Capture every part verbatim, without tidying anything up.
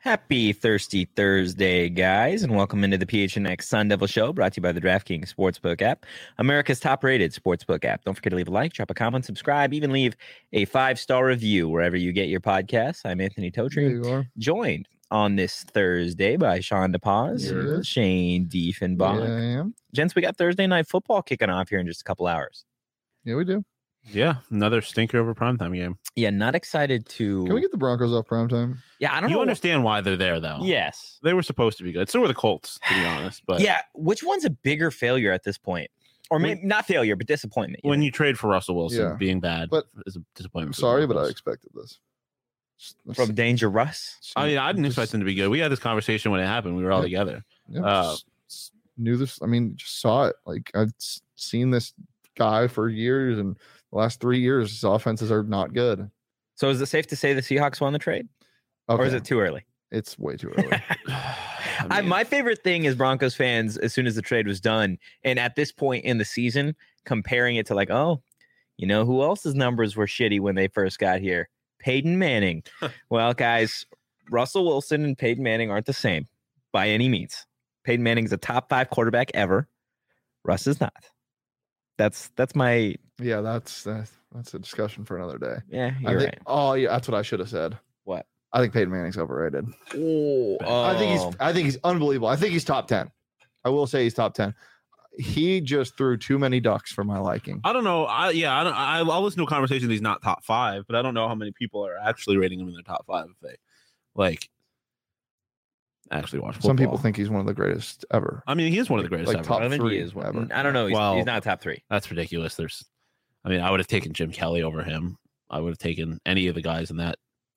Happy Thirsty Thursday, guys, and welcome into the P H N X Sun Devil Show, brought to you by the DraftKings Sportsbook app, America's top-rated sportsbook app. Don't forget to leave a like, drop a comment, subscribe, even leave a five-star review wherever you get your podcasts. I'm Anthony Totri, joined on this Thursday by Sean DePaz, Yes. Shane Diefenbach. Yeah, I am. Gents, we got Thursday Night Football kicking off here in just a couple hours. Yeah, we do. Yeah, another stinker over primetime game. Yeah, not excited to... Can we get the Broncos off primetime? Yeah, I don't You know. understand why they're there, though. Yes. They were supposed to be good. So were the Colts, to be honest. But Yeah, which one's a bigger failure at this point? Or maybe not failure, but disappointment. when know? you trade for Russell Wilson, Yeah. being bad But- is a disappointment. I'm for the sorry, but I Broncos. expected this. From Danger Russ? I mean, I didn't Just- expect them to be good. We had this conversation when it happened. We were all Yeah. together. Yeah, uh, just- just knew this. I mean, just saw it. Like I've s- seen this guy for years, and the last three years, his offenses are not good. So is it safe to say the Seahawks won the trade? Okay. Or is it too early? It's way too early. I I, mean, my favorite thing is Broncos fans, as soon as the trade was done, and at this point in the season, comparing it to like, oh, you know who else's numbers were shitty when they first got here? Peyton Manning. Well, guys, Russell Wilson and Peyton Manning aren't the same by any means. Peyton Manning's a top five quarterback ever. Russ is not. That's that's my yeah, that's that's, that's a discussion for another day. yeah. I You're think, right. Oh, yeah, that's what I should have said. What? I think Peyton Manning's overrated. Oh, I think he's I think he's unbelievable. I think he's top ten. I will say he's top ten. He just threw too many ducks for my liking. I don't know. I yeah, I don't. I, I'll listen to a conversation. He's not top five, but I don't know how many people are actually rating him in their top five. If they like actually watch football. Some people think he's one of the greatest ever. I mean, he is one of the greatest Like ever. top I think three he is one. ever. I don't know. He's, Well, he's not top three. That's ridiculous. There's, I mean, I would have taken Jim Kelly over him. I would have taken any of the guys in that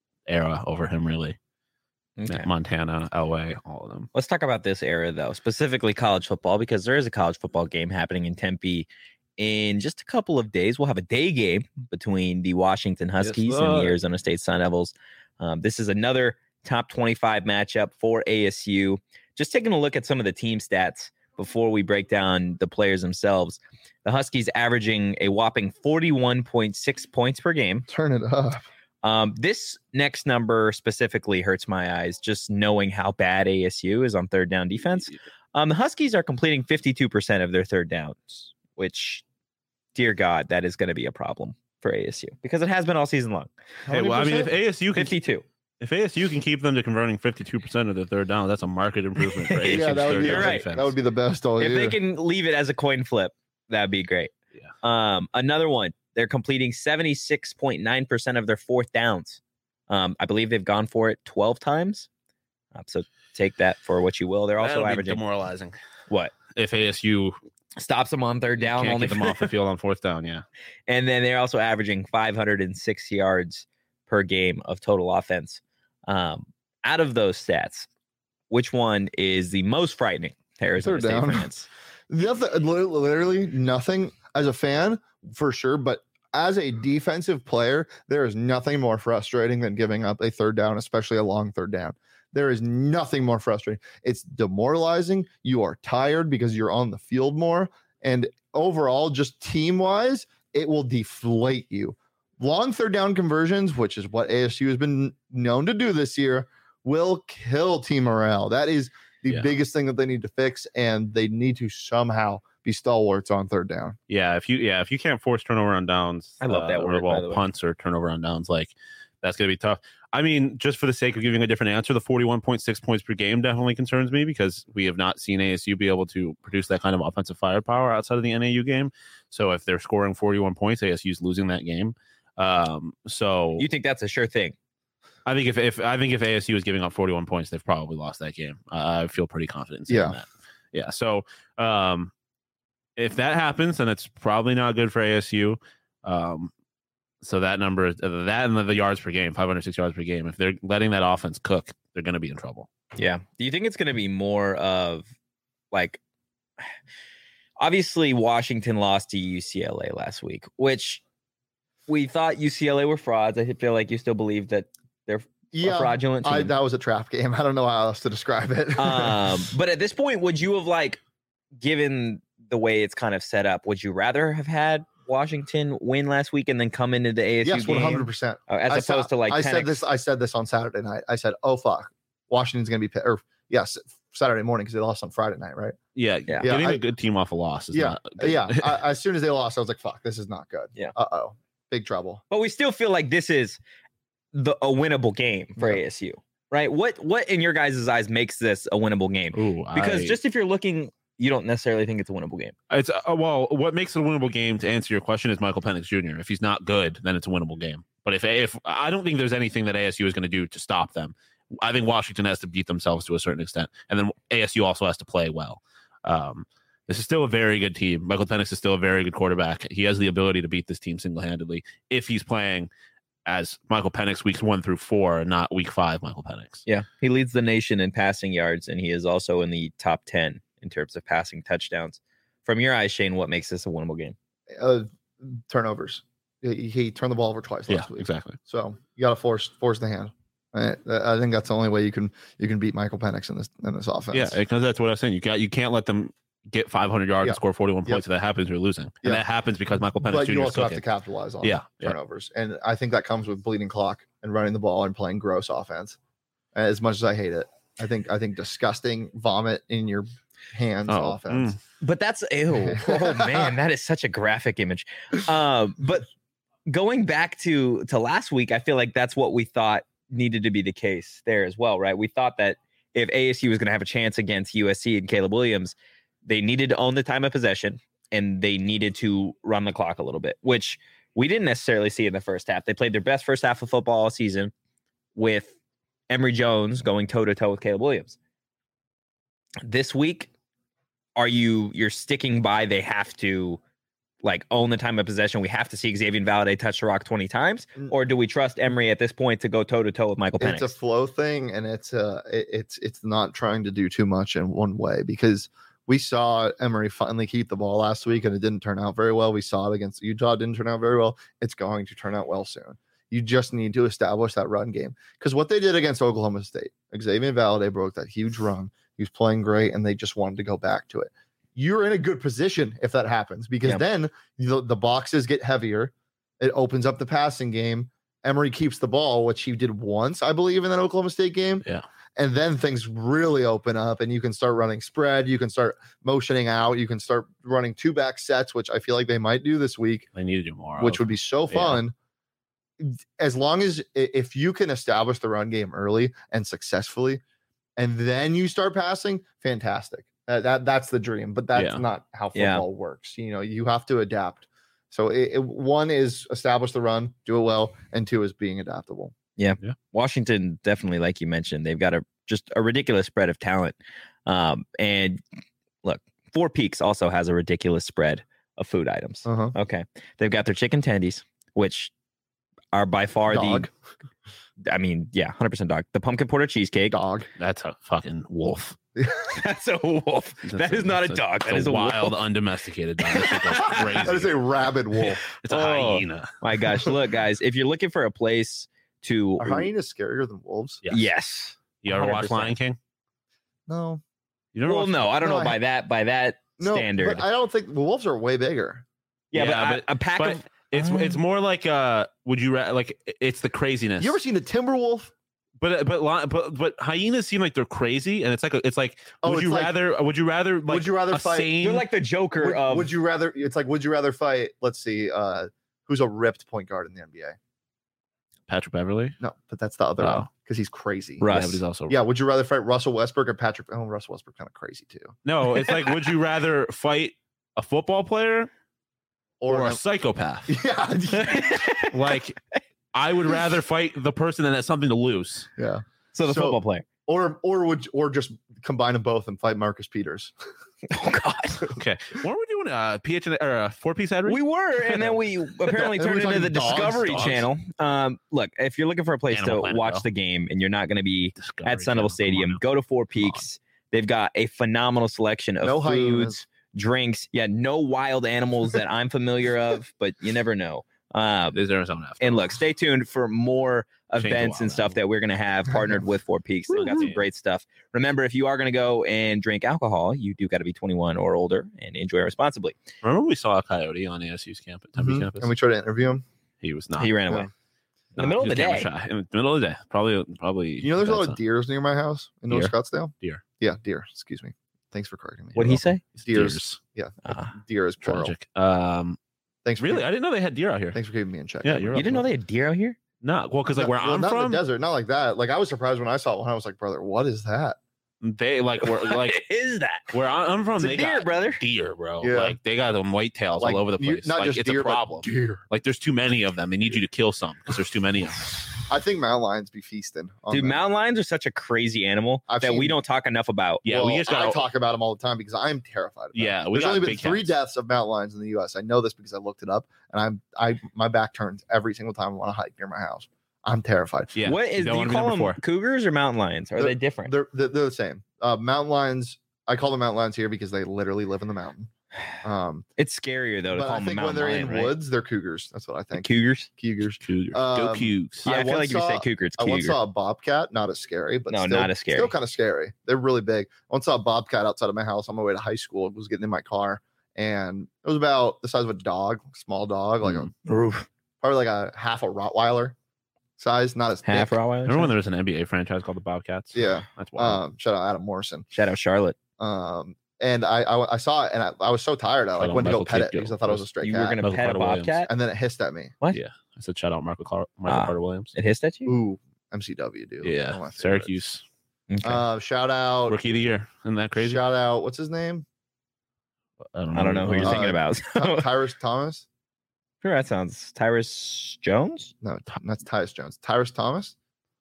era over him, really. Okay. Montana, Elway, all of them. Let's talk about this era, though, specifically college football, because there is a college football game happening in Tempe in just a couple of days. We'll have a day game between the Washington Huskies and the sir. Arizona State Sun Devils. Um, this is another top twenty-five matchup for A S U. Just taking a look at some of the team stats before we break down the players themselves. The Huskies averaging a whopping forty-one point six points per game. Turn it up. Um, this next number specifically hurts my eyes, just knowing how bad A S U is on third down defense. Um, the Huskies are completing fifty-two percent of their third downs, which, dear God, that is going to be a problem for A S U because it has been all season long. How Hey, many well, I mean, if percent? A S U can fifty-two. if A S U can keep them to converting fifty-two percent of their third down, that's a market improvement for A S U's yeah, that would third be You're down right. defense. that would be the best all If year. they can leave it as a coin flip, that'd be great. Yeah. Um, another one, they're completing seventy-six point nine percent of their fourth downs. Um, I believe they've gone for it twelve times. Uh, so take that for what you will. They're also That'll be averaging demoralizing. what? If A S U Stops them on third down, can't only get them off the field on fourth down, yeah. And then they're also averaging five hundred six yards per game of total offense. Um, out of those stats, which one is the most frightening to Arizona Third State down. fans? Nothing, literally nothing as a fan for sure, but as a defensive player, there is nothing more frustrating than giving up a third down, especially a long third down. There is nothing more frustrating. It's demoralizing. You are tired because you're on the field more. And overall, just team wise, it will deflate you. Long third down conversions, which is what A S U has been known to do this year, will kill team morale. That is the Yeah. biggest thing that they need to fix, and they need to somehow be stalwarts on third down. Yeah, if you yeah, if you can't force turnover on downs, I love that uh, word, or by well, the way. punts or turnover on downs, like that's gonna be tough. I mean, just for the sake of giving a different answer, the forty-one point six points per game definitely concerns me because we have not seen A S U be able to produce that kind of offensive firepower outside of the N A U game. So if they're scoring forty-one points, A S U's losing that game. Um, so You think that's a sure thing? I think if, if I think if A S U is giving up forty-one points, they've probably lost that game. Uh, I feel pretty confident in saying Yeah. that. Yeah. So um, if that happens, then it's probably not good for A S U. Um, so that number, uh, that and the, the yards per game, five hundred six yards per game. If they're letting that offense cook, they're going to be in trouble. Yeah. Do you think it's going to be more of like, obviously Washington lost to U C L A last week, which we thought U C L A were frauds. I feel like you still believe that they're a fraudulent team. I, that was a trap game. I don't know how else to describe it. um, but at this point, would you have like, given the way it's kind of set up, would you rather have had Washington win last week and then come into the A S U yes, game? one hundred percent. Uh, as I opposed said, to like I ten said X this. I said this on Saturday night. I said, "Oh fuck, Washington's going to be pi- or yes Saturday morning because they lost on Friday night, right? Yeah, Yeah. Getting I- a good team off a loss is Yeah, not good. yeah. I, as soon as they lost, I was like, "Fuck, this is not good." Yeah. Uh oh, big trouble. But we still feel like this is the a winnable game for Yeah. A S U, right? What what in your guys' eyes makes this a winnable game? Ooh, Because I- just if you're looking, you don't necessarily think it's a winnable game. It's uh, well, what makes it a winnable game to answer your question is Michael Penix Junior If he's not good, then it's a winnable game. But if if I don't think there's anything that A S U is going to do to stop them. I think Washington has to beat themselves to a certain extent, and then A S U also has to play well. Um, this is still a very good team. Michael Penix is still a very good quarterback. He has the ability to beat this team single handedly if he's playing as Michael Penix weeks one through four, not week five. Michael Penix. Yeah, he leads the nation in passing yards, and he is also in the top ten in terms of passing touchdowns. From your eyes, Shane, what makes this a winnable game? Uh, turnovers. He, he turned the ball over twice Yeah, last week. exactly. So you got to force force the hand. I, I think that's the only way you can you can beat Michael Penix in this in this offense. Yeah, because that's what I was saying. You got you can't let them get five hundred yards Yeah. and score forty-one Yep. points. If that happens, you're losing, and Yeah. that happens because Michael Penix but Junior you is also have to cooking. capitalize on Yeah, yeah. turnovers, and I think that comes with bleeding clock and running the ball and playing gross offense. As much as I hate it, I think I think disgusting vomit in your hands Oh, offense. mm. But that's ew. Oh man, that is such a graphic image. Um, but going back to to last week, I feel like that's what we thought needed to be the case there as well, right? We thought that if A S U was going to have a chance against U S C and Caleb Williams, they needed to own the time of possession and they needed to run the clock a little bit, which we didn't necessarily see in the first half. They played their best first half of football all season with Emory Jones going toe to toe with Caleb Williams. This week, are you you're sticking by they have to like own the time of possession? We have to see Xavier Valade touch the rock twenty times, or do we trust Emory at this point to go toe to toe with Michael Penix? It's a flow thing, and it's uh it, it's it's not trying to do too much in one way because we saw Emory finally keep the ball last week and it didn't turn out very well. We saw it against Utah, it didn't turn out very well. It's going to turn out well soon. You just need to establish that run game because what they did against Oklahoma State, Xavier Valade broke that huge run. He was playing great, and they just wanted to go back to it. You're in a good position if that happens because Yeah. then the, the boxes get heavier. It opens up the passing game. Emory keeps the ball, which he did once, I believe, in that Oklahoma State game. Yeah. And then things really open up, and you can start running spread. You can start motioning out. You can start running two back sets, which I feel like they might do this week, They need to do more. which of. would be so Yeah. fun. As long as i- if you can establish the run game early and successfully, and then you start passing, fantastic. Uh, that that's the dream, but that's Yeah. not how Yeah. football works. You know, you have to adapt. So it, it- one is establish the run, do it well, and two is being adaptable. Washington definitely, like you mentioned, they've got a just a ridiculous spread of talent. Um, and look, Four Peaks also has a ridiculous spread of food items. Uh-huh. Okay, they've got their chicken tendies, which are by far Dog, the. I mean, yeah, one hundred percent dog. The pumpkin porter cheesecake. dog. That's a fucking wolf. That's a wolf. That's That is not a that's dog. that's That is a wild, wolf. undomesticated dog. That shit goes crazy. That is a rabid wolf. It's a Oh. hyena. My gosh, look, guys, if you're looking for a place to, Are hyenas scarier than wolves? Yes. yes. You ever watch one hundred percent. Lion King? No, You never Well, watched- no, I don't No, know I- by that by that no. standard. But I don't think wolves are way bigger. yeah, Yeah, but, but- a, a pack but of It's Oh. it's more like uh would you ra- like it's the craziness. You ever seen a timber wolf? but but li- but but hyenas seem like they're crazy, and it's like a, it's like Oh, would it's you like- rather would you rather like would you rather a fight? sane- you're like the Joker Would, of. would you rather? It's like would you rather fight? Let's see. Uh, who's a ripped point guard in the N B A? Patrick Beverly? No, but that's the other Oh. one because he's crazy. Russ. Yeah, but he's also Yeah, would you rather fight Russell Westbrook or Patrick? Oh, Russell Westbrook kind of crazy too. no. It's like would you rather fight a football player or, a an- psychopath? yeah, Like I would rather fight the person that has something to lose. yeah. so the so- football player. Or or would or just combine them both and fight Marcus Peters? Oh God. Okay, weren't we doing a P H or a four piece ad read? We were, and then we apparently And we're turned into the talking dogs, Discovery dogs. Channel. Um, look, if you're looking for a place Animal to Planet, watch though. the game and you're not going to be Discovery at Sun Devil Channel, come Stadium, on go to Four Peaks. They've got a phenomenal selection of No foods, hyenas. drinks. Yeah, no wild animals that I'm familiar of, but you never know. now. Uh, There's Arizona after. and look, stay tuned for more Change the events and wild stuff animal. that we're going to have partnered with Four Peaks. They've got some Woo-hoo. great stuff. Remember, if you are going to go and drink alcohol, you do got to be twenty-one or older and enjoy responsibly. Remember we saw a coyote on A S U's campus, Tempe Mhm. campus? And we tried to interview him. he was not. He ran Yeah. away. In the middle of the camera day. shy. In the middle of the day, probably, probably. You know, there's a lot of that's deers near my house in North Deer? Scottsdale. Deer. Yeah, deer. Excuse me. Thanks for correcting me. What did he say? Deers. Deers. Yeah, Ah, deer is plural. Tragic. Um, Thanks. For really, keeping- I didn't know they had deer out here. Thanks for keeping me in check. Yeah, you're You didn't know welcome. they had deer out here? No, well, because like where Well, I'm not in from, the desert, not like that. Like I was surprised when I saw one. I was like, brother, what is that? they like where like What is that? where I- I'm from. It's a they deer, got brother. deer, bro. Yeah. Like they got them white tails Like, all over the you- place. Not like just it's deer, a but problem. deer. Like there's too many of them. They need you to kill some because there's too many of them. I think mountain lions be feasting. On Dude, them. mountain lions are such a crazy animal I've that we seen- don't talk enough about. Yeah, we Well, just got. I talk about them all the time because I'm terrified. Of them. Yeah, we There's got only been big three cats. deaths of mountain lions in the U S. I know this because I looked it up, and I'm I my back turns every single time I want to hike near my house. I'm terrified. Yeah. What you is? don't Do you wanna be call number them four. cougars or mountain lions? Are They're- they different? They're, they're they're the same. Uh, mountain lions. I call them mountain lions here because they literally live in the mountain. Um, It's scarier though to but call I them a think when mountain they're lion, in right? woods, they're cougars. That's what I The think. cougars. Cougars. Cougars. Go Um, Cougs. Yeah, I, I feel once like if you say saw- cougar, it's I once cougar. saw a bobcat. Not as scary, but No, still, not as Still scary. kind of scary. They're really big. I once saw a bobcat outside of my house on my way to high school. I was getting in my car, and it was about the size of a dog, small dog, like Mm. a Oof. probably like a half a Rottweiler size, not as Half thick. Rottweiler. Remember when there was an N B A franchise called the Bobcats? Yeah. That's wild. Um, shout out Adam Morrison. Shout out Charlotte. Um, and I, I I saw it, and I, I was so tired. I Shout like out went to go Michael pet it Kidd because I thought it was a stray You cat. were gonna Michael pet a Carter Williams. bobcat. and then it hissed at me. What? Yeah. I said shout out Michael, Car- Michael Ah. Carter Williams. It hissed at you. Ooh, M C W, dude. One of Yeah. my favorites. Syracuse. Okay. Uh, shout out. Rookie of the year. Isn't that crazy? Shout out. What's his name? I don't I don't know who you're Uh, thinking about. Ty- Tyrus Thomas. Sure, that sounds Tyrus Jones. No, that's Tyus Jones. Tyrus Thomas.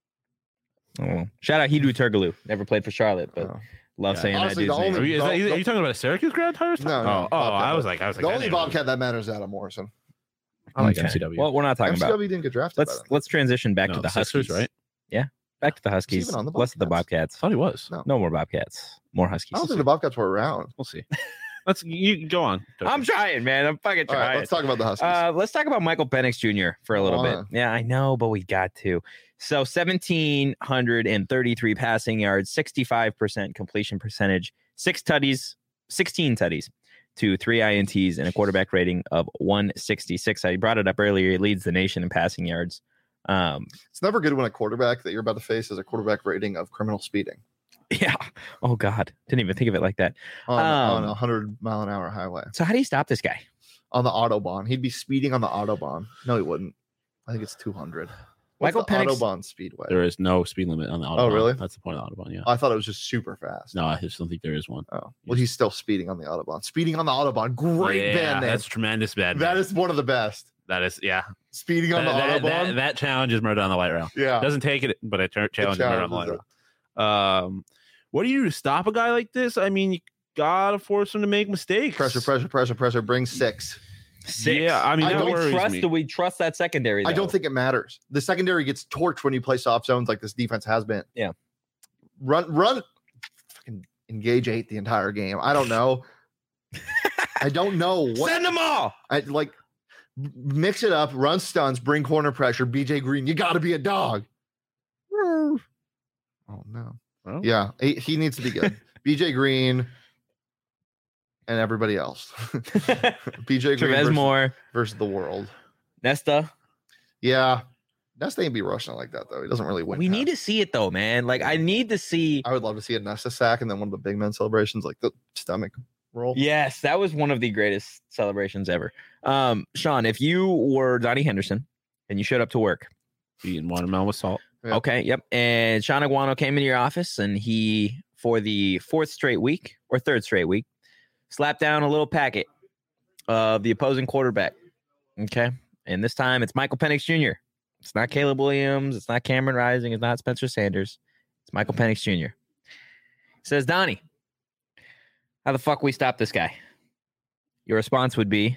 Oh. Shout out Hidru Turgaloo. Never played for Charlotte, but Oh. love Yeah. saying Honestly, that the dude's Are name. you, is that, Don't- are you don't- talking about a Syracuse grad, Tyrus? No, Oh, no, oh, Bobcat. I was like, I was like, The that only name- Bobcat that matters is Adam Morrison. I like Okay. M C W. Well, we're not talking M C about. W didn't get drafted. Let's by them. let's transition back No, to the Sixers, Huskies. right? Back to the Huskies. even on the Less of the Bobcats. Bobcats. I thought he was. No. No more Bobcats. More Huskies. I don't think the Bobcats were around. We'll see. Let's you go on. I'm trying, man. I'm fucking All right, trying. let's talk about the Huskies. Uh, let's talk about Michael Penix Junior for a little Go bit. on. Yeah, I know, but we got to. So one thousand seven hundred thirty-three passing yards, sixty-five percent completion percentage, six tutties, sixteen tutties to three I N Ts, and a quarterback rating of one sixty-six. I brought it up earlier. He leads the nation in passing yards. Um, It's never good when a quarterback that you're about to face has a quarterback rating of criminal speeding yeah. Oh, God. Didn't even think of it like that. on, on Um, a hundred mile an hour highway So how do you stop this guy? on the autobahn. He'd be speeding on the autobahn. No, he wouldn't. I think it's two hundred. What's Michael the Penix- autobahn speedway? There is no speed limit on the autobahn. Oh, really? That's the point of the autobahn. Yeah. I thought it was just super fast. No, I just don't think there is one. Oh, well, he's still speeding on the autobahn. Speeding on the autobahn. Great yeah, band name. That's tremendous bad. That name. is one of the best. that is yeah. Speeding on That, the that, autobahn. that, that challenge is murder on the light rail. yeah. Doesn't take it, but it tur- challenges murder on the light challenges rail. Um, what do you do to stop a guy like this? I mean, you gotta force him to make mistakes. Pressure, pressure, pressure, pressure. Bring six. Six. Yeah, I mean, I that do we worries trust? me. Do we trust that secondary? I don't though? think it matters. The secondary gets torched when you play soft zones like this defense has been. Yeah. Run, run, fucking engage eight the entire game. I don't know. I don't know what. Send them all. I like mix it up, run stunts, bring corner pressure. B J Green, you got to be a dog. Oh no. Well, Yeah, he, he needs to be good. B J Green and everybody else. B J Green Trevez versus, Moore, versus the world. Nesta. Yeah. Nesta ain't be rushing like that though. He doesn't really win. We need passes. to see it though, man. Like I need to see. I would love to see a Nesta sack and then one of the big men celebrations, like the stomach roll. Yes, that was one of the greatest celebrations ever. Um, Sean, if you were Donnie Henderson and you showed up to work, eating watermelon with salt. Yeah. okay, yep, and Sean Aguano came into your office and he, for the fourth straight week or third straight week, slapped down a little packet of the opposing quarterback. Okay, and this time it's Michael Penix Junior It's not Caleb Williams. It's not Cameron Rising. It's not Spencer Sanders. It's Michael Penix Junior He says, Donnie, how the fuck we stop this guy? Your response would be,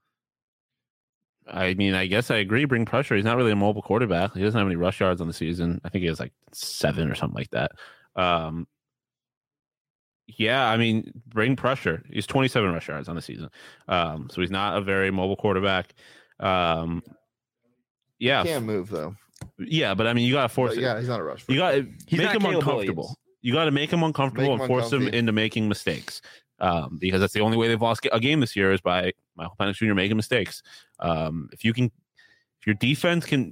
I mean, I guess I agree. Bring pressure. He's not really a mobile quarterback. He doesn't have any rush yards on the season. I think he has like seven or something like that. Um, yeah, I mean, bring pressure. He's twenty-seven rush yards on the season. Um, so he's not a very mobile quarterback. Um, yeah, He can't move though. yeah, but I mean, you got to force But it. yeah, he's not a rush. You got to He's make not him Caleb uncomfortable. Williams. You got to make him uncomfortable Make him and force him uncomfy. into making mistakes. Um, because that's the only way they've lost a game this year is by Michael Penix Junior making mistakes. Um, if you can, if your defense can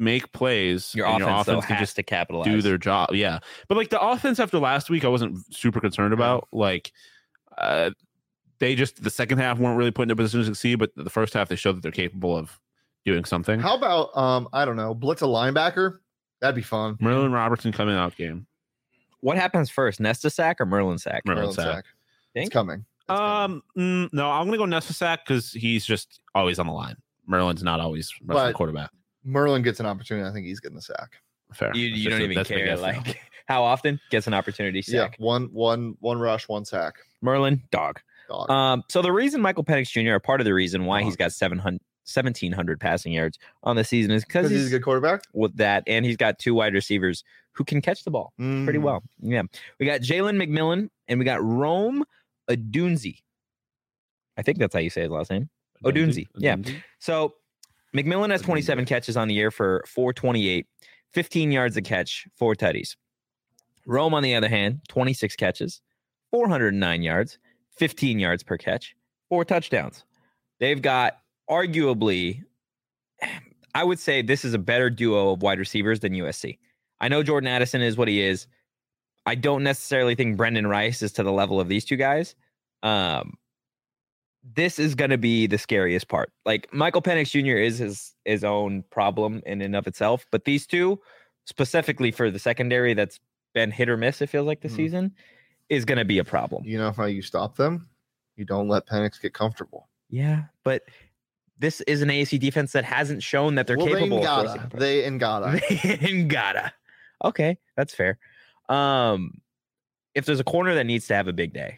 make plays, Your and offense, your offense though, can has just to capitalize. do their job. Yeah, but like the offense after last week, I wasn't super concerned about. Like, uh, they just the second half weren't really put in a position to succeed, but the first half they showed that they're capable of doing something. How about um I don't know, blitz a linebacker? That'd be fun. Merlin Robertson coming out game. What happens first, Nesta sack or Merlin sack? Merlin Merlin sack. sack. Think? It's coming. It's coming. Um, mm, no, I'm gonna go Nesta sack because he's just always on the line. Merlin's not always rushing the But- quarterback. Merlin gets an opportunity. I think he's getting the sack. Fair. You, That's you just don't a- even that's a big care if now. like how often gets an opportunity sack. Yeah, one one one rush, one sack. Merlin, dog. Dog. Um, so the reason Michael Penix Junior, or part of the reason why Dog. he's got seven hundred, seventeen hundred passing yards on the season is because Because he's, he's a good quarterback. with that, and he's got two wide receivers who can catch the ball pretty Mm. well. Yeah, we got Jalen McMillan and we got Rome Odunze. I think that's how you say his last name. Odunze, yeah. So McMillan has twenty-seven catches on the year for four twenty-eight, fifteen yards a catch, four tutties. Rome, on the other hand, twenty-six catches, four hundred nine yards, fifteen yards per catch, four touchdowns. They've got arguably, I would say this is a better duo of wide receivers than U S C. I know Jordan Addison is what he is. I don't necessarily think Brendan Rice is to the level of these two guys. Um, this is going to be the scariest part. Like Michael Penix Junior is his his own problem in and of itself, but these two, specifically for the secondary, that's been hit or miss. It feels like this Mhm. season is going to be a problem. You know how you stop them? You don't let Penix get comfortable. Yeah, but this is an A S U defense that hasn't shown that they're well, capable they of gotta. forcing. They and gotta. They gotta. Okay, that's fair. Um, if there's a corner that needs to have a big day,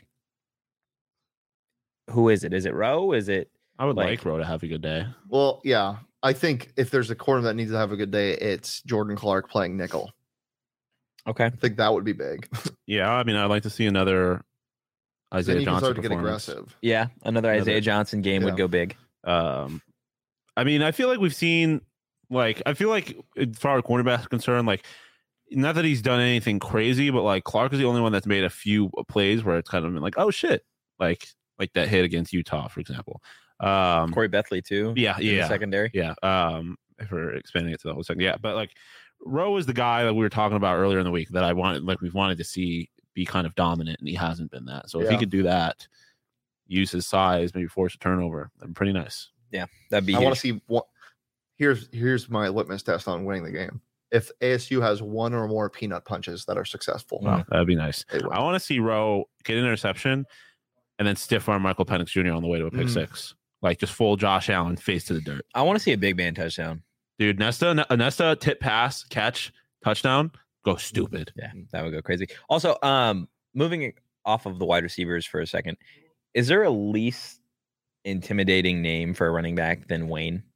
who is it? Is it Rowe? Is it I would like- like Rowe to have a good day. Well, yeah. I think if there's a corner that needs to have a good day, it's Jordan Clark playing nickel. okay? I think that would be big. Yeah, I mean, I'd like to see another then Isaiah you can Johnson start to get performance. aggressive. Yeah, another Another- Isaiah Johnson game yeah. would go big. Um, I mean, I feel like we've seen, like, I feel like as far as cornerback is concerned, like, not that he's done anything crazy, but like Clark is the only one that's made a few plays where it's kind of been like, oh shit, like like that hit against Utah, for example. Um, Corey Bethley too. yeah, in the yeah, secondary. yeah. Um, if we're expanding it to the whole second, yeah, but like Rowe is the guy that we were talking about earlier in the week that I wanted, like we've wanted to see be kind of dominant, and he hasn't been that. So if he Yeah. could do that, use his size, maybe force a turnover, that'd be pretty nice. That'd be. I want to huge. see what. Here's here's my litmus test on winning the game. If A S U has one or more peanut punches that are successful, Mm. That'd be nice. they win. I want to see Rowe get an interception and then stiff arm Michael Penix Junior on the way to a pick Mm. six. Like just full Josh Allen face to the dirt. I want to see a big man touchdown. Dude, Nesta, a Nesta tip pass, catch, touchdown, go stupid. Yeah, that would go crazy. Also, um, moving off of the wide receivers for a second, is there a least intimidating name for a running back than Wayne?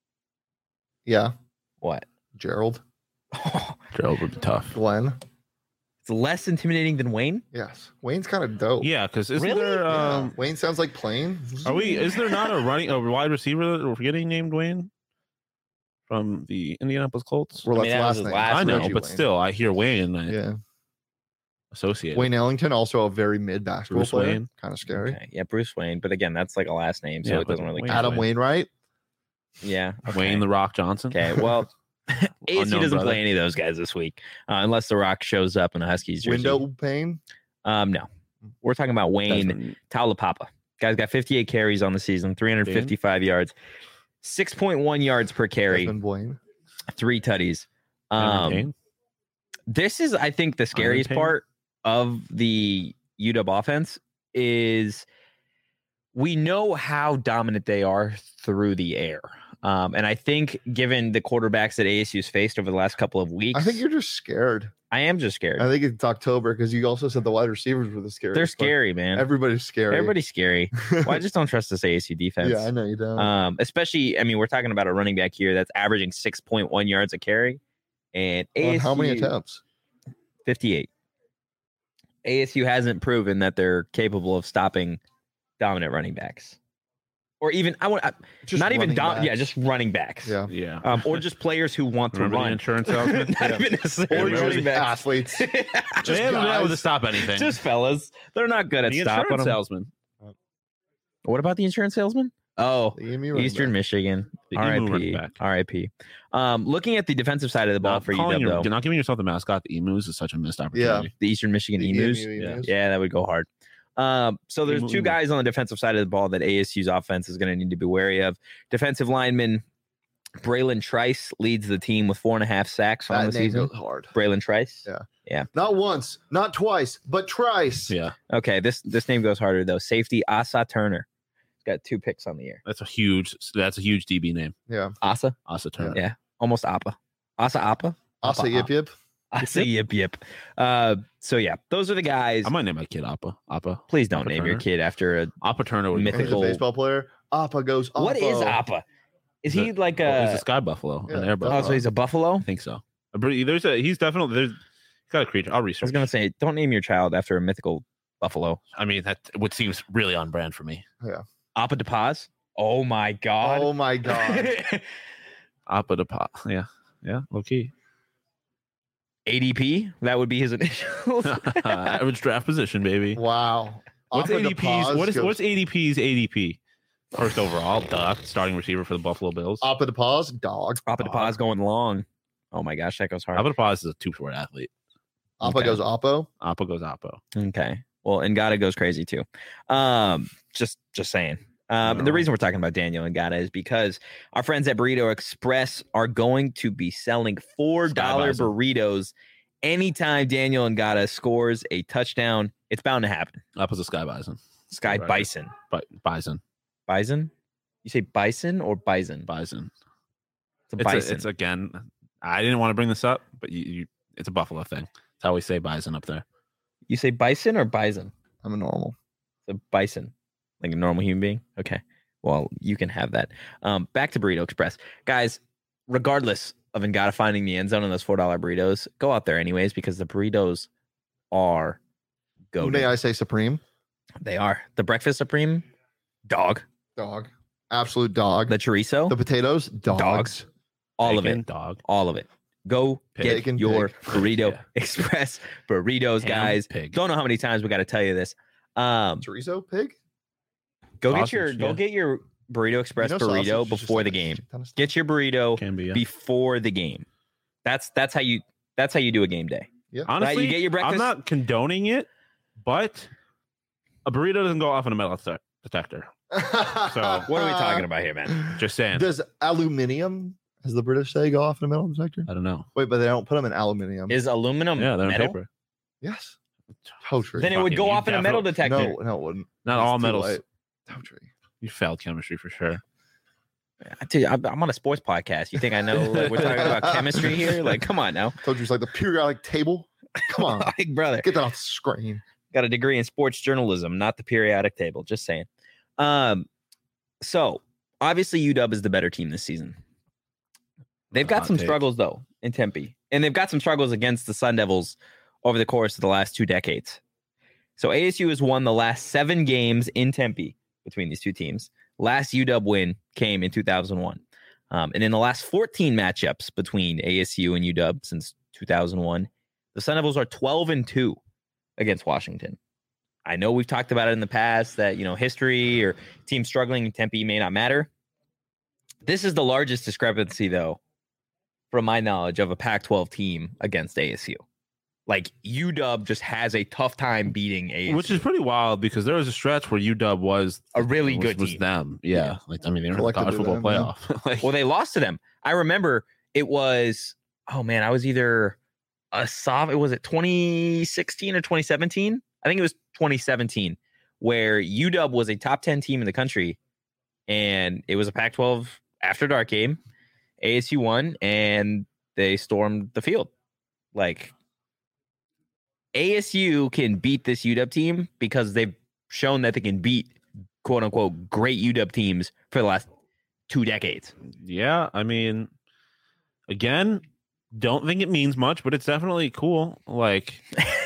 Yeah, What? Gerald, Gerald would be tough. Glenn. It's less intimidating than Wayne? Yes, Wayne's kind of dope. Yeah, because isn't Really? there Yeah, um Wayne sounds like plain. are we is there not a running a wide receiver that we're getting named Wayne from the Indianapolis Colts? Well, I mean, that's that was last his name. last I know, Reggie but Wayne. still I hear Wayne and I Yeah, associate it. Wayne Ellington, also a very mid basketball Bruce player. Wayne. Kind of scary. Okay. Yeah, Bruce Wayne. But again, that's like a last name, so Yeah, it doesn't but really Wayne- count. Adam Wayne. Wainwright. Yeah. Okay. Wayne the Rock Johnson. Okay. Well, A S U Unknown doesn't brother. play any of those guys this week, uh, unless The Rock shows up in a Huskies jersey. Window pane. Um, no. We're talking about Wayne Desmond. Taulapapa. Guy's got fifty-eight carries on the season, three hundred fifty-five yards, six point one yards per carry, Desmond Blaine. three tutties. Cameron Um, Payne? this is, I think, the scariest Payne? part of the U W offense is we know how dominant they are through the air. Um, and I think given the quarterbacks that A S U's faced over the last couple of weeks, I think you're just scared. I am just scared. I think it's October because you also said the wide receivers were the scariest. They're but scary, man. Everybody's scary. Everybody's scary. Well, I just don't trust this A S U defense. yeah, I know you don't. Um, especially, I mean, we're talking about a running back here that's averaging six point one yards a carry, and On A S U, how many attempts? fifty-eight. A S U hasn't proven that they're capable of stopping dominant running backs, or even I want I- Just not even running dom- backs. yeah, just running backs. yeah. Yeah. um, or just players who want to Remember the run. insurance salesman? Not even necessarily Or running just backs. athletes. they haven't been able to guys. stop anything. Just fellas. They're not good at the stopping insurance them. salesman. What about the insurance salesman? Oh, The Emu running Eastern back. Michigan. The emu R I running P. back. R I P. Um, looking at the defensive side of the ball Not for calling U W, your- though, not giving yourself the mascot, the emus, is such a missed opportunity. the Eastern Michigan The Emus. E M U Yeah. Emus. Yeah, that would go hard. Um, so there's Emu, two emu. guys on the defensive side of the ball that A S U's offense is going to need to be wary of. Defensive lineman Braylon Trice leads the team with four and a half sacks on That the name season. goes hard. Braylon Trice. Yeah. Not once, not twice, but twice. Yeah, Okay, this this name goes harder though. Safety Asa Turner. He's got two picks on the year. that's a huge. That's a huge D B name. Yeah. Asa, Asa Turner. yeah, almost Appa. Asa Appa. Asa Appa, yip yip. Asa yip yip. Uh, so yeah, those are the guys. I might name my kid Appa. Appa. Please don't Appa name your Turner. kid after a. Appa Turner would be Mythical- He's a great. baseball player. Appa goes. Appa. What is Appa? Is he The- like Oh, he's a? a sky buffalo, Yeah. an air Oh, buffalo. so he's a buffalo. I think so. A bre- There's a. He's definitely there's. He's got a creature. I'll I research. was gonna say, don't name your child after a mythical buffalo. I mean, that would seems really on brand for me. Appa de Paz. Oh my god. Oh my god. Appa de pa. Yeah, yeah. Low key. A D P. That would be his initials. Average draft position, baby. Wow. What's Appa de A D P's? Paz What is goes- what's A D P's A D P? First overall, duh. Starting receiver for the Buffalo Bills. Appa de Paz? Dog. Appa de Paz going long. Oh my gosh, that goes hard. Appa de Paz is a two-sport athlete. Appa Okay. goes Oppo. Appa goes Appo. Okay. Well, Ngata goes crazy too. Um, just just saying. Um, and the No. reason we're talking about Daniel Ngata is because our friends at Burrito Express are going to be selling four dollar Sky Bison. burritos anytime Daniel Ngata scores a touchdown. It's bound to happen. Appa's a Sky Bison. Sky Right. Bison. But Bison. Bison? You say bison or bison? Bison. It's a It's, bison. a, it's again. I didn't want to bring this up, but you, you it's a Buffalo thing. It's how we say Bison up there. You say bison or bison? I'm a normal. It's a bison, like a normal human being. Okay. Well, you can have that. Um, back to Burrito Express, guys. Regardless of Ngata finding the end zone on those four dollar burritos, go out there anyways because the burritos are go. May I say Supreme? They are the breakfast supreme, dog. Dog. Absolute dog. The chorizo, The potatoes? Dogs. Dogs. all Bacon, of it, Dog. all of it. Go Pig. get Bacon, your pig. Burrito Yeah. Express burritos, Ham, guys. Pig. Don't know how many times we got to tell you this. Um, Chorizo? Pig? go get Sausage, your go yeah. get your Burrito Express You know sausage burrito is just before like the a game. shit ton of stuff. Get your burrito Can be. Yeah. before the game. That's that's how you that's how you do a game day. Honestly, you get your breakfast- I'm not condoning it, but a burrito doesn't go off in a metal detec- detector. So, What are we talking about here, man? Just saying. Does aluminium, as the British say, go off in a metal detector? I don't know. Wait, but they don't put them in aluminium. Is aluminum Yeah, they're in metal? paper. yes. Totally. Then it would Fucking go you off in a metal definitely- detector. no, no, it wouldn't. Not It's all too metals. light. Totally. You failed chemistry for sure. I tell you, I'm I'm on a sports podcast. You think I know? Like, we're talking about chemistry here. Like, come on now, Told you it's like the periodic table. Come on. like brother. Get that off the screen. Got a degree in sports journalism, not the periodic table. Just saying. Um, so obviously U W is the better team this season. They've got Hot some take. struggles though in Tempe, and they've got some struggles against the Sun Devils over the course of the last two decades. So A S U has won the last seven games in Tempe between these two teams. Last U W win came in two thousand one, um, and in the last fourteen matchups between A S U and U W since two thousand one, the Sun Devils are twelve and two against Washington. I know we've talked about it in the past that, you know, history or teams struggling in Tempe may not matter. This is the largest discrepancy, though, from my knowledge, of a Pac twelve team against A S U. Like, U W just has a tough time beating A S U. Which is pretty wild because there was a stretch where U W was a really was, good was team. them. Yeah. Yeah. Like I mean, they were in the college Collectively football them, yeah. playoff. Like, Well, they lost to them. I remember it was, oh man, I was either a soft, it was it twenty sixteen or twenty seventeen? I think it was twenty seventeen, where U W was a top ten team in the country, and it was a Pac twelve after dark game. A S U won, and they stormed the field. Like, A S U can beat this U W team because they've shown that they can beat quote unquote great U W teams for the last two decades. yeah, I mean, again, don't think it means much, but it's definitely cool. Like,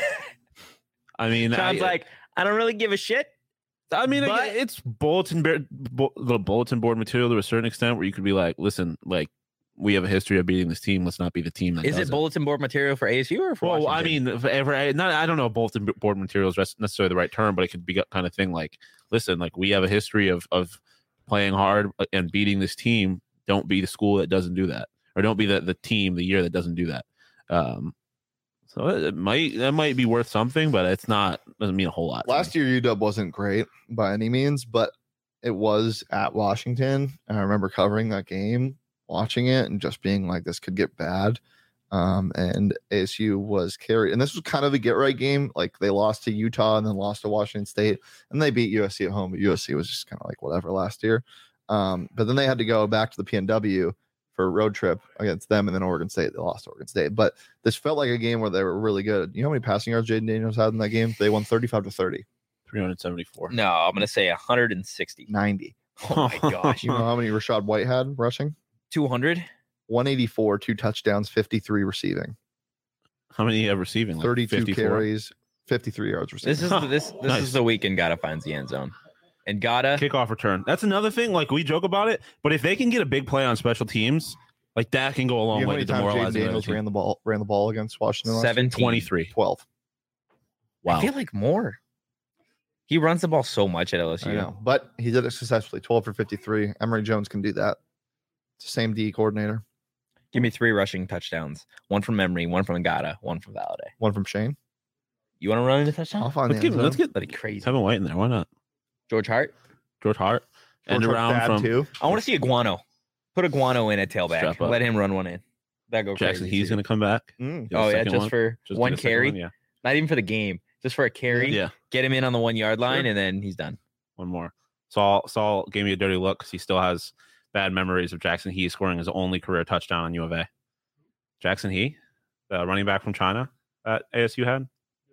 I mean, Sounds I, like I don't really give a shit. I mean, but- again, it's bulletin board, bu- the bulletin board material to a certain extent, where you could be like, listen, like we have a history of beating this team. Let's not be the team that Is does it bulletin board material for A S U or for Well, I Washington? mean, if ever, I, not, I don't know if bulletin board material is necessarily the right term, but it could be kind of thing like, listen, like we have a history of of playing hard and beating this team Don't be the school that doesn't do that, or don't be the, the team the year that doesn't do that. Um, so it might that might be worth something, but it's not doesn't mean a whole lot. Last year, U W wasn't great by any means, but it was at Washington, and I remember covering that game, watching it, and just being like, "This could get bad." Um, and A S U was carried, and this was kind of a get right game. Like they lost to Utah and then lost to Washington State, and they beat U S C at home, but U S C was just kind of like whatever last year. Um, but then they had to go back to the P N W for a road trip against them, and then Oregon State. They lost to Oregon State, but this felt like a game where they were really good. You know how many passing yards Jaden Daniels had in that game? They won thirty-five to thirty. three hundred seventy-four. No, I'm gonna say one hundred sixty. ninety. Oh my gosh. You know how many Rashad White had rushing? two hundred? one eighty-four, two touchdowns, fifty-three receiving. How many you have receiving? Like thirty-two fifty-four? carries, fifty-three yards receiving. This is the, this this Nice. is the weekend Gotta finds the end zone. And Gotta Kickoff return. That's another thing. Like we joke about it, but if they can get a big play on special teams, like that can go a long You know how way many to times Jaden demoralize the other Daniels team. ran the ball ran the ball against Washington? last year? seventeen. twenty-three. twelve. Wow. I feel like more. He runs the ball so much at L S U. I know, but he did it successfully. twelve for fifty-three. Emory Jones can do that. It's the same D coordinator. Give me three rushing touchdowns. One from Emory, one from Gotta, one from Valladay. One from Shane. You want to run into touchdown? I'll find Let's the get end let's zone. get That'd be crazy. Kevin White in there. Why not? George Hart. George Hart. And George around Hart's dad, from too. I want to see a Guano. Put a Guano in at Strap tailback. up. Let him run one in. That go Jackson. crazy. He's too. going to come back. Mm. Get a Oh yeah, second just one. for Just one get a second carry. one, Yeah. Not even for the game. Just for a carry. Yeah. Get him in on the one yard line, Sure. and then he's done. One more. Saul Saul gave me a dirty look because he still has bad memories of Jackson He scoring his only career touchdown on U of A. Jackson He, the running back from China that A S U had.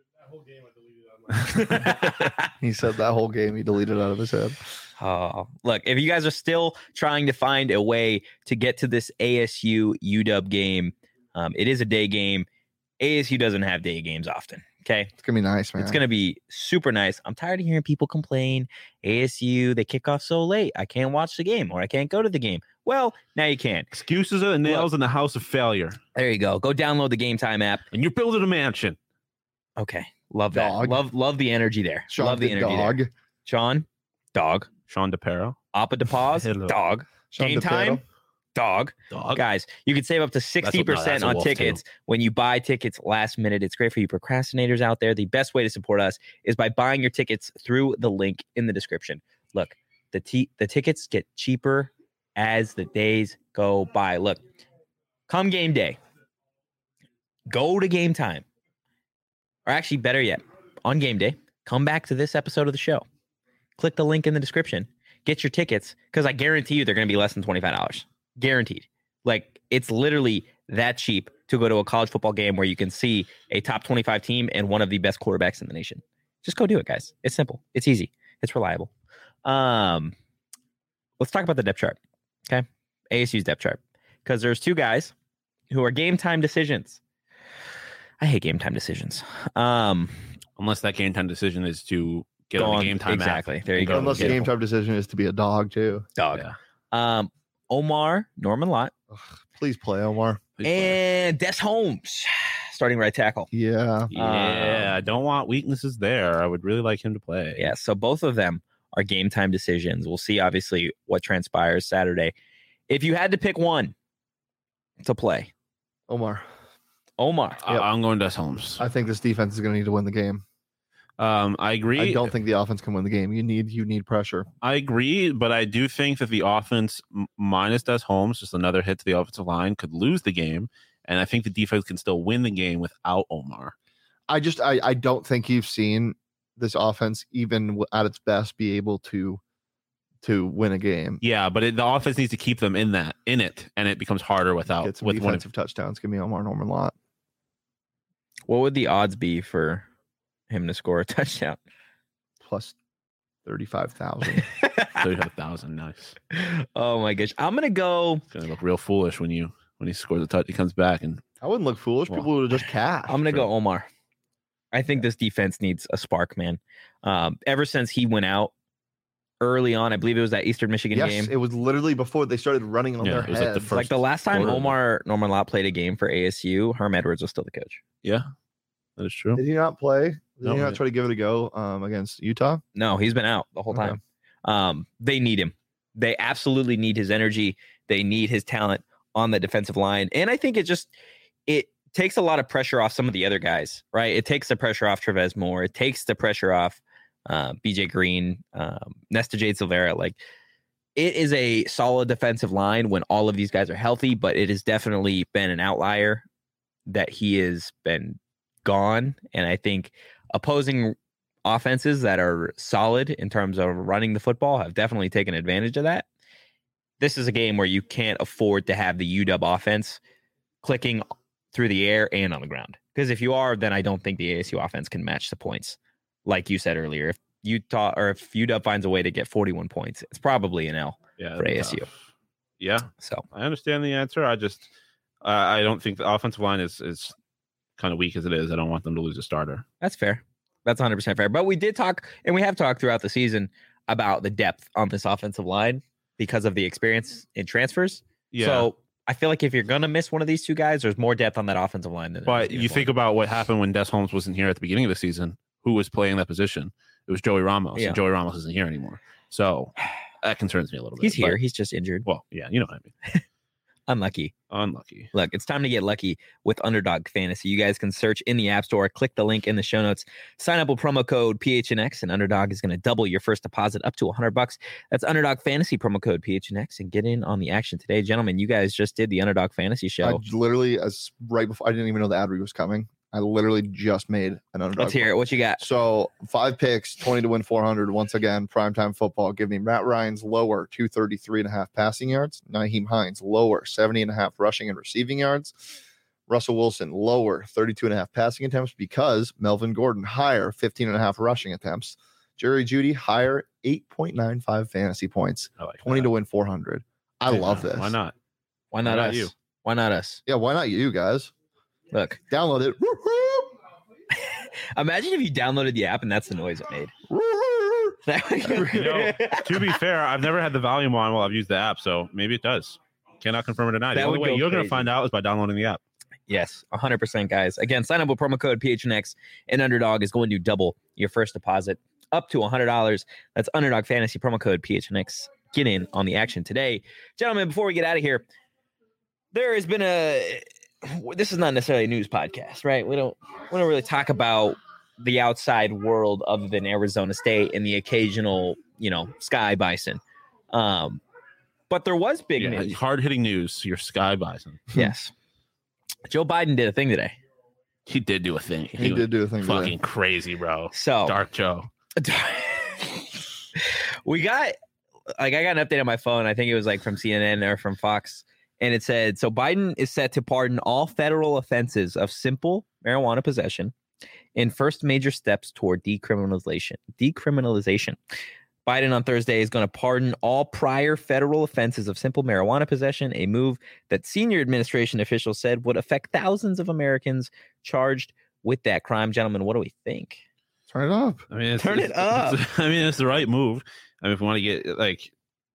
He said that whole game he deleted out of his head. Oh, look, if you guys are still trying to find a way to get to this A S U U W game, um, it is a day game. A S U doesn't have day games often. Okay. It's gonna be nice, man. It's going to be super nice. I'm tired of hearing people complain. A S U, they kick off so late. I can't watch the game or I can't go to the game. Well, now you can. Excuses are nails in the house of failure. There you go. Go download the Game Time app. And you're building a mansion. Okay. Love that. Dog. Love love the energy there. Sean love the the energy dog. there. Sean, dog. Sean DePero. Appa DePaz, Hello. dog. Sean Game DePero. Time, dog. Dog. Guys, you can save up to That's sixty a- no, that's percent a on wolf, tickets when you buy tickets last minute. It's great for you procrastinators out there. The best way to support us is by buying your tickets through the link in the description. Look, the t- the tickets get cheaper as the days go by. Look, come game day, go to Game Time. Or actually, better yet, on game day, come back to this episode of the show. Click the link in the description. Get your tickets because I guarantee you they're going to be less than twenty-five dollars. Guaranteed. Like, it's literally that cheap to go to a college football game where you can see a top twenty-five team and one of the best quarterbacks in the nation. Just go do it, guys. It's simple. It's easy. It's reliable. Um, let's talk about the depth chart. Okay. A S U's depth chart. Because there's two guys who are game time decisions. I hate game time decisions. Um, Unless that game time decision is to get Go on on- the game time app. exactly. There you and go. Unless the Get it. game time decision is to be a dog too. dog. Yeah. Um, Omar Norman Lott Ugh, please play, Omar. Please play. and Des Holmes, starting right tackle. Yeah. Yeah, Um, I don't want weaknesses there. I would really like him to play. Yeah, so both of them are game time decisions. We'll see, obviously, what transpires Saturday. If you had to pick one to play, Omar. Omar. I- I'm going Des Holmes. I think this defense is going to need to win the game. Um, I agree. I don't think the offense can win the game. You need you need pressure. I agree, but I do think that the offense m- minus Des Holmes, just another hit to the offensive line, could lose the game, and I think the defense can still win the game without Omar. I just I I don't think you've seen this offense even w- at its best be able to to win a game. Yeah, but it, the offense needs to keep them in that in it, and it becomes harder without Get some with one. defensive touchdowns. Give me Omar Norman Lott. What would the odds be for him to score a touchdown? Plus thirty-five thousand. Thirty-five thousand, nice. Oh my gosh. I'm gonna go. It's gonna look real foolish when you when he scores a touch. He comes back and I wouldn't look foolish. Well, People would have just cash. I'm gonna Sure. go Omar. I think this defense needs a spark, man. Um, ever since he went out early on, I believe it was that Eastern Michigan Yes, game. it was literally before they started running on Yeah, their it was like the heads. first- Like the last time quarter. Omar Norman Lott played a game for A S U, Herm Edwards was still the coach. yeah, that is true. Did he not play? Did No, he not he- try to give it a go um, against Utah? No, he's been out the whole Okay. time. Um, they need him. They absolutely need his energy. They need his talent on the defensive line. And I think it just it takes a lot of pressure off some of the other guys, right? It takes the pressure off Trevez Moore. It takes the pressure off uh, B J Green, um, Nesta Jade Silvera. Like, it is a solid defensive line when all of these guys are healthy, but it has definitely been an outlier that he has been gone. And I think opposing offenses that are solid in terms of running the football have definitely taken advantage of that. This is a game where you can't afford to have the U W offense clicking through the air and on the ground. Because if you are, then I don't think the A S U offense can match the points. Like you said earlier, if Utah or if U W finds a way to get forty-one points, it's probably an L yeah, for A S U. Tough. Yeah. So I understand the answer. I just, uh, I don't think the offensive line is, is kind of weak as it is. I don't want them to lose a starter. That's fair. That's one hundred percent fair. But we did talk, and we have talked throughout the season about the depth on this offensive line because of the experience in transfers. Yeah. So I feel like if you're going to miss one of these two guys, there's more depth on that offensive line. Than But you think about what happened when Des Holmes wasn't here at the beginning of the season. Who was playing that position? It was Joey Ramos, Yeah. and Joey Ramos isn't here anymore. So that concerns me a little bit. He's here. But, He's just injured. well, yeah, you know what I mean. Unlucky. Unlucky. Look, it's time to get lucky with Underdog Fantasy. You guys can search in the App Store, click the link in the show notes, sign up with promo code P H N X, and Underdog is going to double your first deposit up to one hundred bucks. That's Underdog Fantasy promo code P H N X, and get in on the action today. Gentlemen, you guys just did the Underdog Fantasy show. I literally, as right before, I didn't even know the ad read was coming. I literally just made an underdog. Let's hear it. What you got? So five picks, twenty to win four hundred. Once again, primetime football. Give me Matt Ryan's lower, two thirty-three and a half passing yards. Naheem Hines lower, seventy and a half rushing and receiving yards. Russell Wilson lower, thirty-two and a half passing attempts because Melvin Gordon higher, fifteen and a half rushing attempts. Jerry Jeudy higher, eight point nine five fantasy points. I like twenty that. to win four hundred. I Yeah, love this. Why not? Why not Why not us? you? Why not us? Yeah, why not you guys? Look, Download it. imagine if you downloaded the app and that's the noise it made. You know, to be fair, I've never had the volume on while I've used the app, so maybe it does. Cannot confirm or deny. The That only would way go you're going crazy. to find out is by downloading the app. Yes, one hundred percent, guys. Again, sign up with promo code P H N X, and Underdog is going to double your first deposit up to one hundred dollars. That's Underdog Fantasy promo code P H N X. Get in on the action today. Gentlemen, before we get out of here, there has been a this is not necessarily a news podcast, right? We don't we don't really talk about the outside world other than Arizona State and the occasional, you know, Sky Bison. Um, but there was big Yeah, news. hard hitting news. Your Sky Bison. Yes. Joe Biden did a thing today. He did do a thing. He was did do a thing today. Fucking crazy, bro. So Dark Joe. we got like I got an update on my phone. I think it was like from C N N or from Fox. And it said, so Biden is set to pardon all federal offenses of simple marijuana possession in first major steps toward decriminalization. Decriminalization. Biden on Thursday is going to pardon all prior federal offenses of simple marijuana possession, a move that senior administration officials said would affect thousands of Americans charged with that crime. Gentlemen, what do we think? Turn it up. I mean, it's, Turn it it's- up. it's- I mean, it's the right move. I mean, if we want to get like,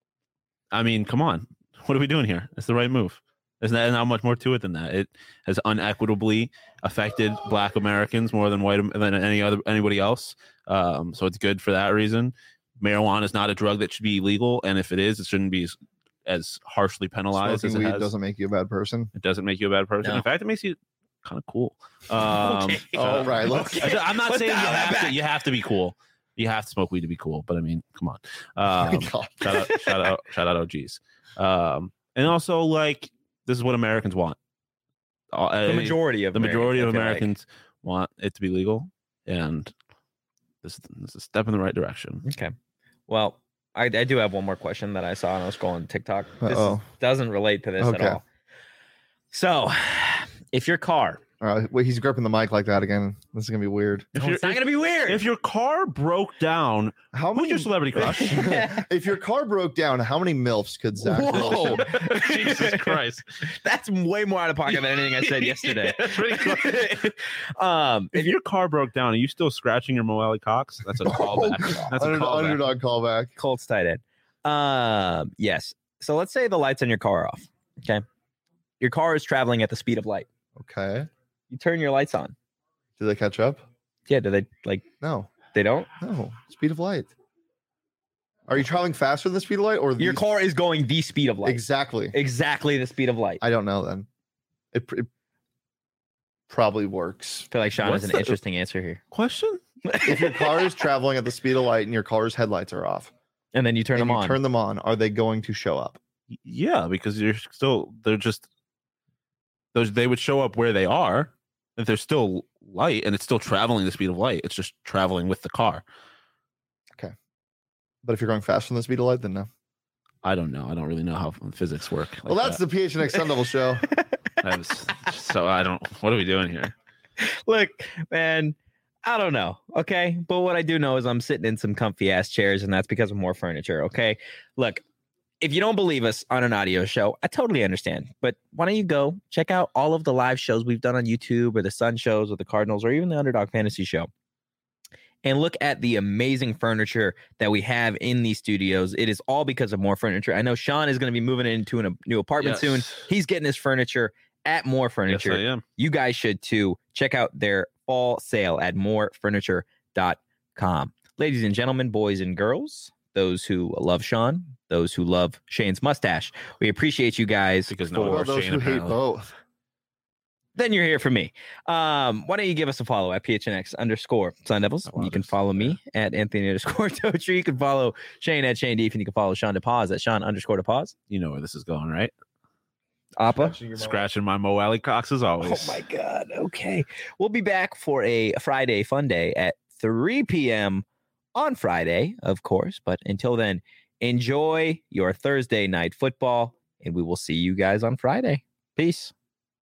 I mean, come on. What are we doing here? It's the right move. There's not, not much more to it than that. It has unequitably affected Black Americans more than white than any other anybody else. Um, so it's good for that reason. Marijuana is not a drug that should be illegal, and if it is, it shouldn't be as, as harshly penalized Smoking as it weed has. doesn't make you a bad person. It doesn't make you a bad person. No. In fact, it makes you kind of cool. Um, Okay. Oh, right. Let's, Okay. I- I'm not Let's saying you dial that have to. back. You have to be cool. You have to smoke weed to be cool. But I mean, come on. Um, God. shout out, shout out, shout out, O Gs. Um, and also, like, this is what Americans want. Uh, The majority of the majority of I feel like. Americans want it to be legal, and this, this is a step in the right direction. Okay. Well, I, I do have one more question that I saw and I was scrolling TikTok. This is- Uh-oh. doesn't relate to this Okay. at all. So, if your car, All right. Wait, he's gripping the mic like that again. This is gonna be weird. If, oh, your it's not if, going to be weird. if your car broke down, How who's many? your celebrity crush? If your car broke down, how many milfs could Zach? Whoa. Wilson- Jesus Christ. That's way more out of pocket than anything I said yesterday. That's pretty close. um, If your car broke down, are you still scratching your Moelle Cox? That's a callback. That's a Under- callback. underdog callback. Colts tight end. Um, yes. So let's say the lights on your car are off. Okay. Your car is traveling at the speed of light. Okay. You turn your lights on. Do they catch up? Yeah. Do they like? No. They don't. No. Speed of light. Are you traveling faster than the speed of light, or Your the- car is going the speed of light. exactly? Exactly the speed of light. I don't know. Then it, it probably works. I feel like Sean What's has an the- interesting answer here. Question? If your car is traveling at the speed of light and your car's headlights are off, And then you turn and them you on. turn them on, are they going to show up? Yeah, because you're still they're just those they would show up where they are if they're still light and it's still traveling the speed of light. It's just traveling with the car. But if you're going faster than the speed of light, then no. I don't know. I don't really know how physics work. Well, that's the P H N X Sun Devil show. the so I don't. What are we doing here? Look, man, I don't know. Okay. But what I do know is I'm sitting in some comfy ass chairs, and that's because of more furniture. Okay. Look, if you don't believe us on an audio show, I totally understand. But why don't you go check out all of the live shows we've done on YouTube, or the Sun shows, or the Cardinals, or even the Underdog Fantasy show, and look at the amazing furniture that we have in these studios. It is all because of More Furniture. I know Sean is going to be moving into a new apartment Yes. soon. He's getting his furniture at More Yes, Furniture. I am. You guys should too. Check out their fall sale at more furniture dot com. Ladies and gentlemen, boys and girls, those who love Sean, those who love Shane's mustache, we appreciate you guys. Because no one for- Well, loves those Shane, who hate apparently. both. then you're here for me. Um, why don't you give us a follow at P H N X underscore Sun Devils? Oh, wow, You can this- follow yeah. me at Anthony underscore Totri. You can follow Shane at Shane Deef, and you can follow Sean DePause at Sean underscore DePause. You know where this is going, right? Appa. Scratching my Mo Alley Cox as always. Oh my God. Okay. We'll be back for a Friday fun day at three p.m. on Friday, of course. But until then, enjoy your Thursday night football, and we will see you guys on Friday. Peace.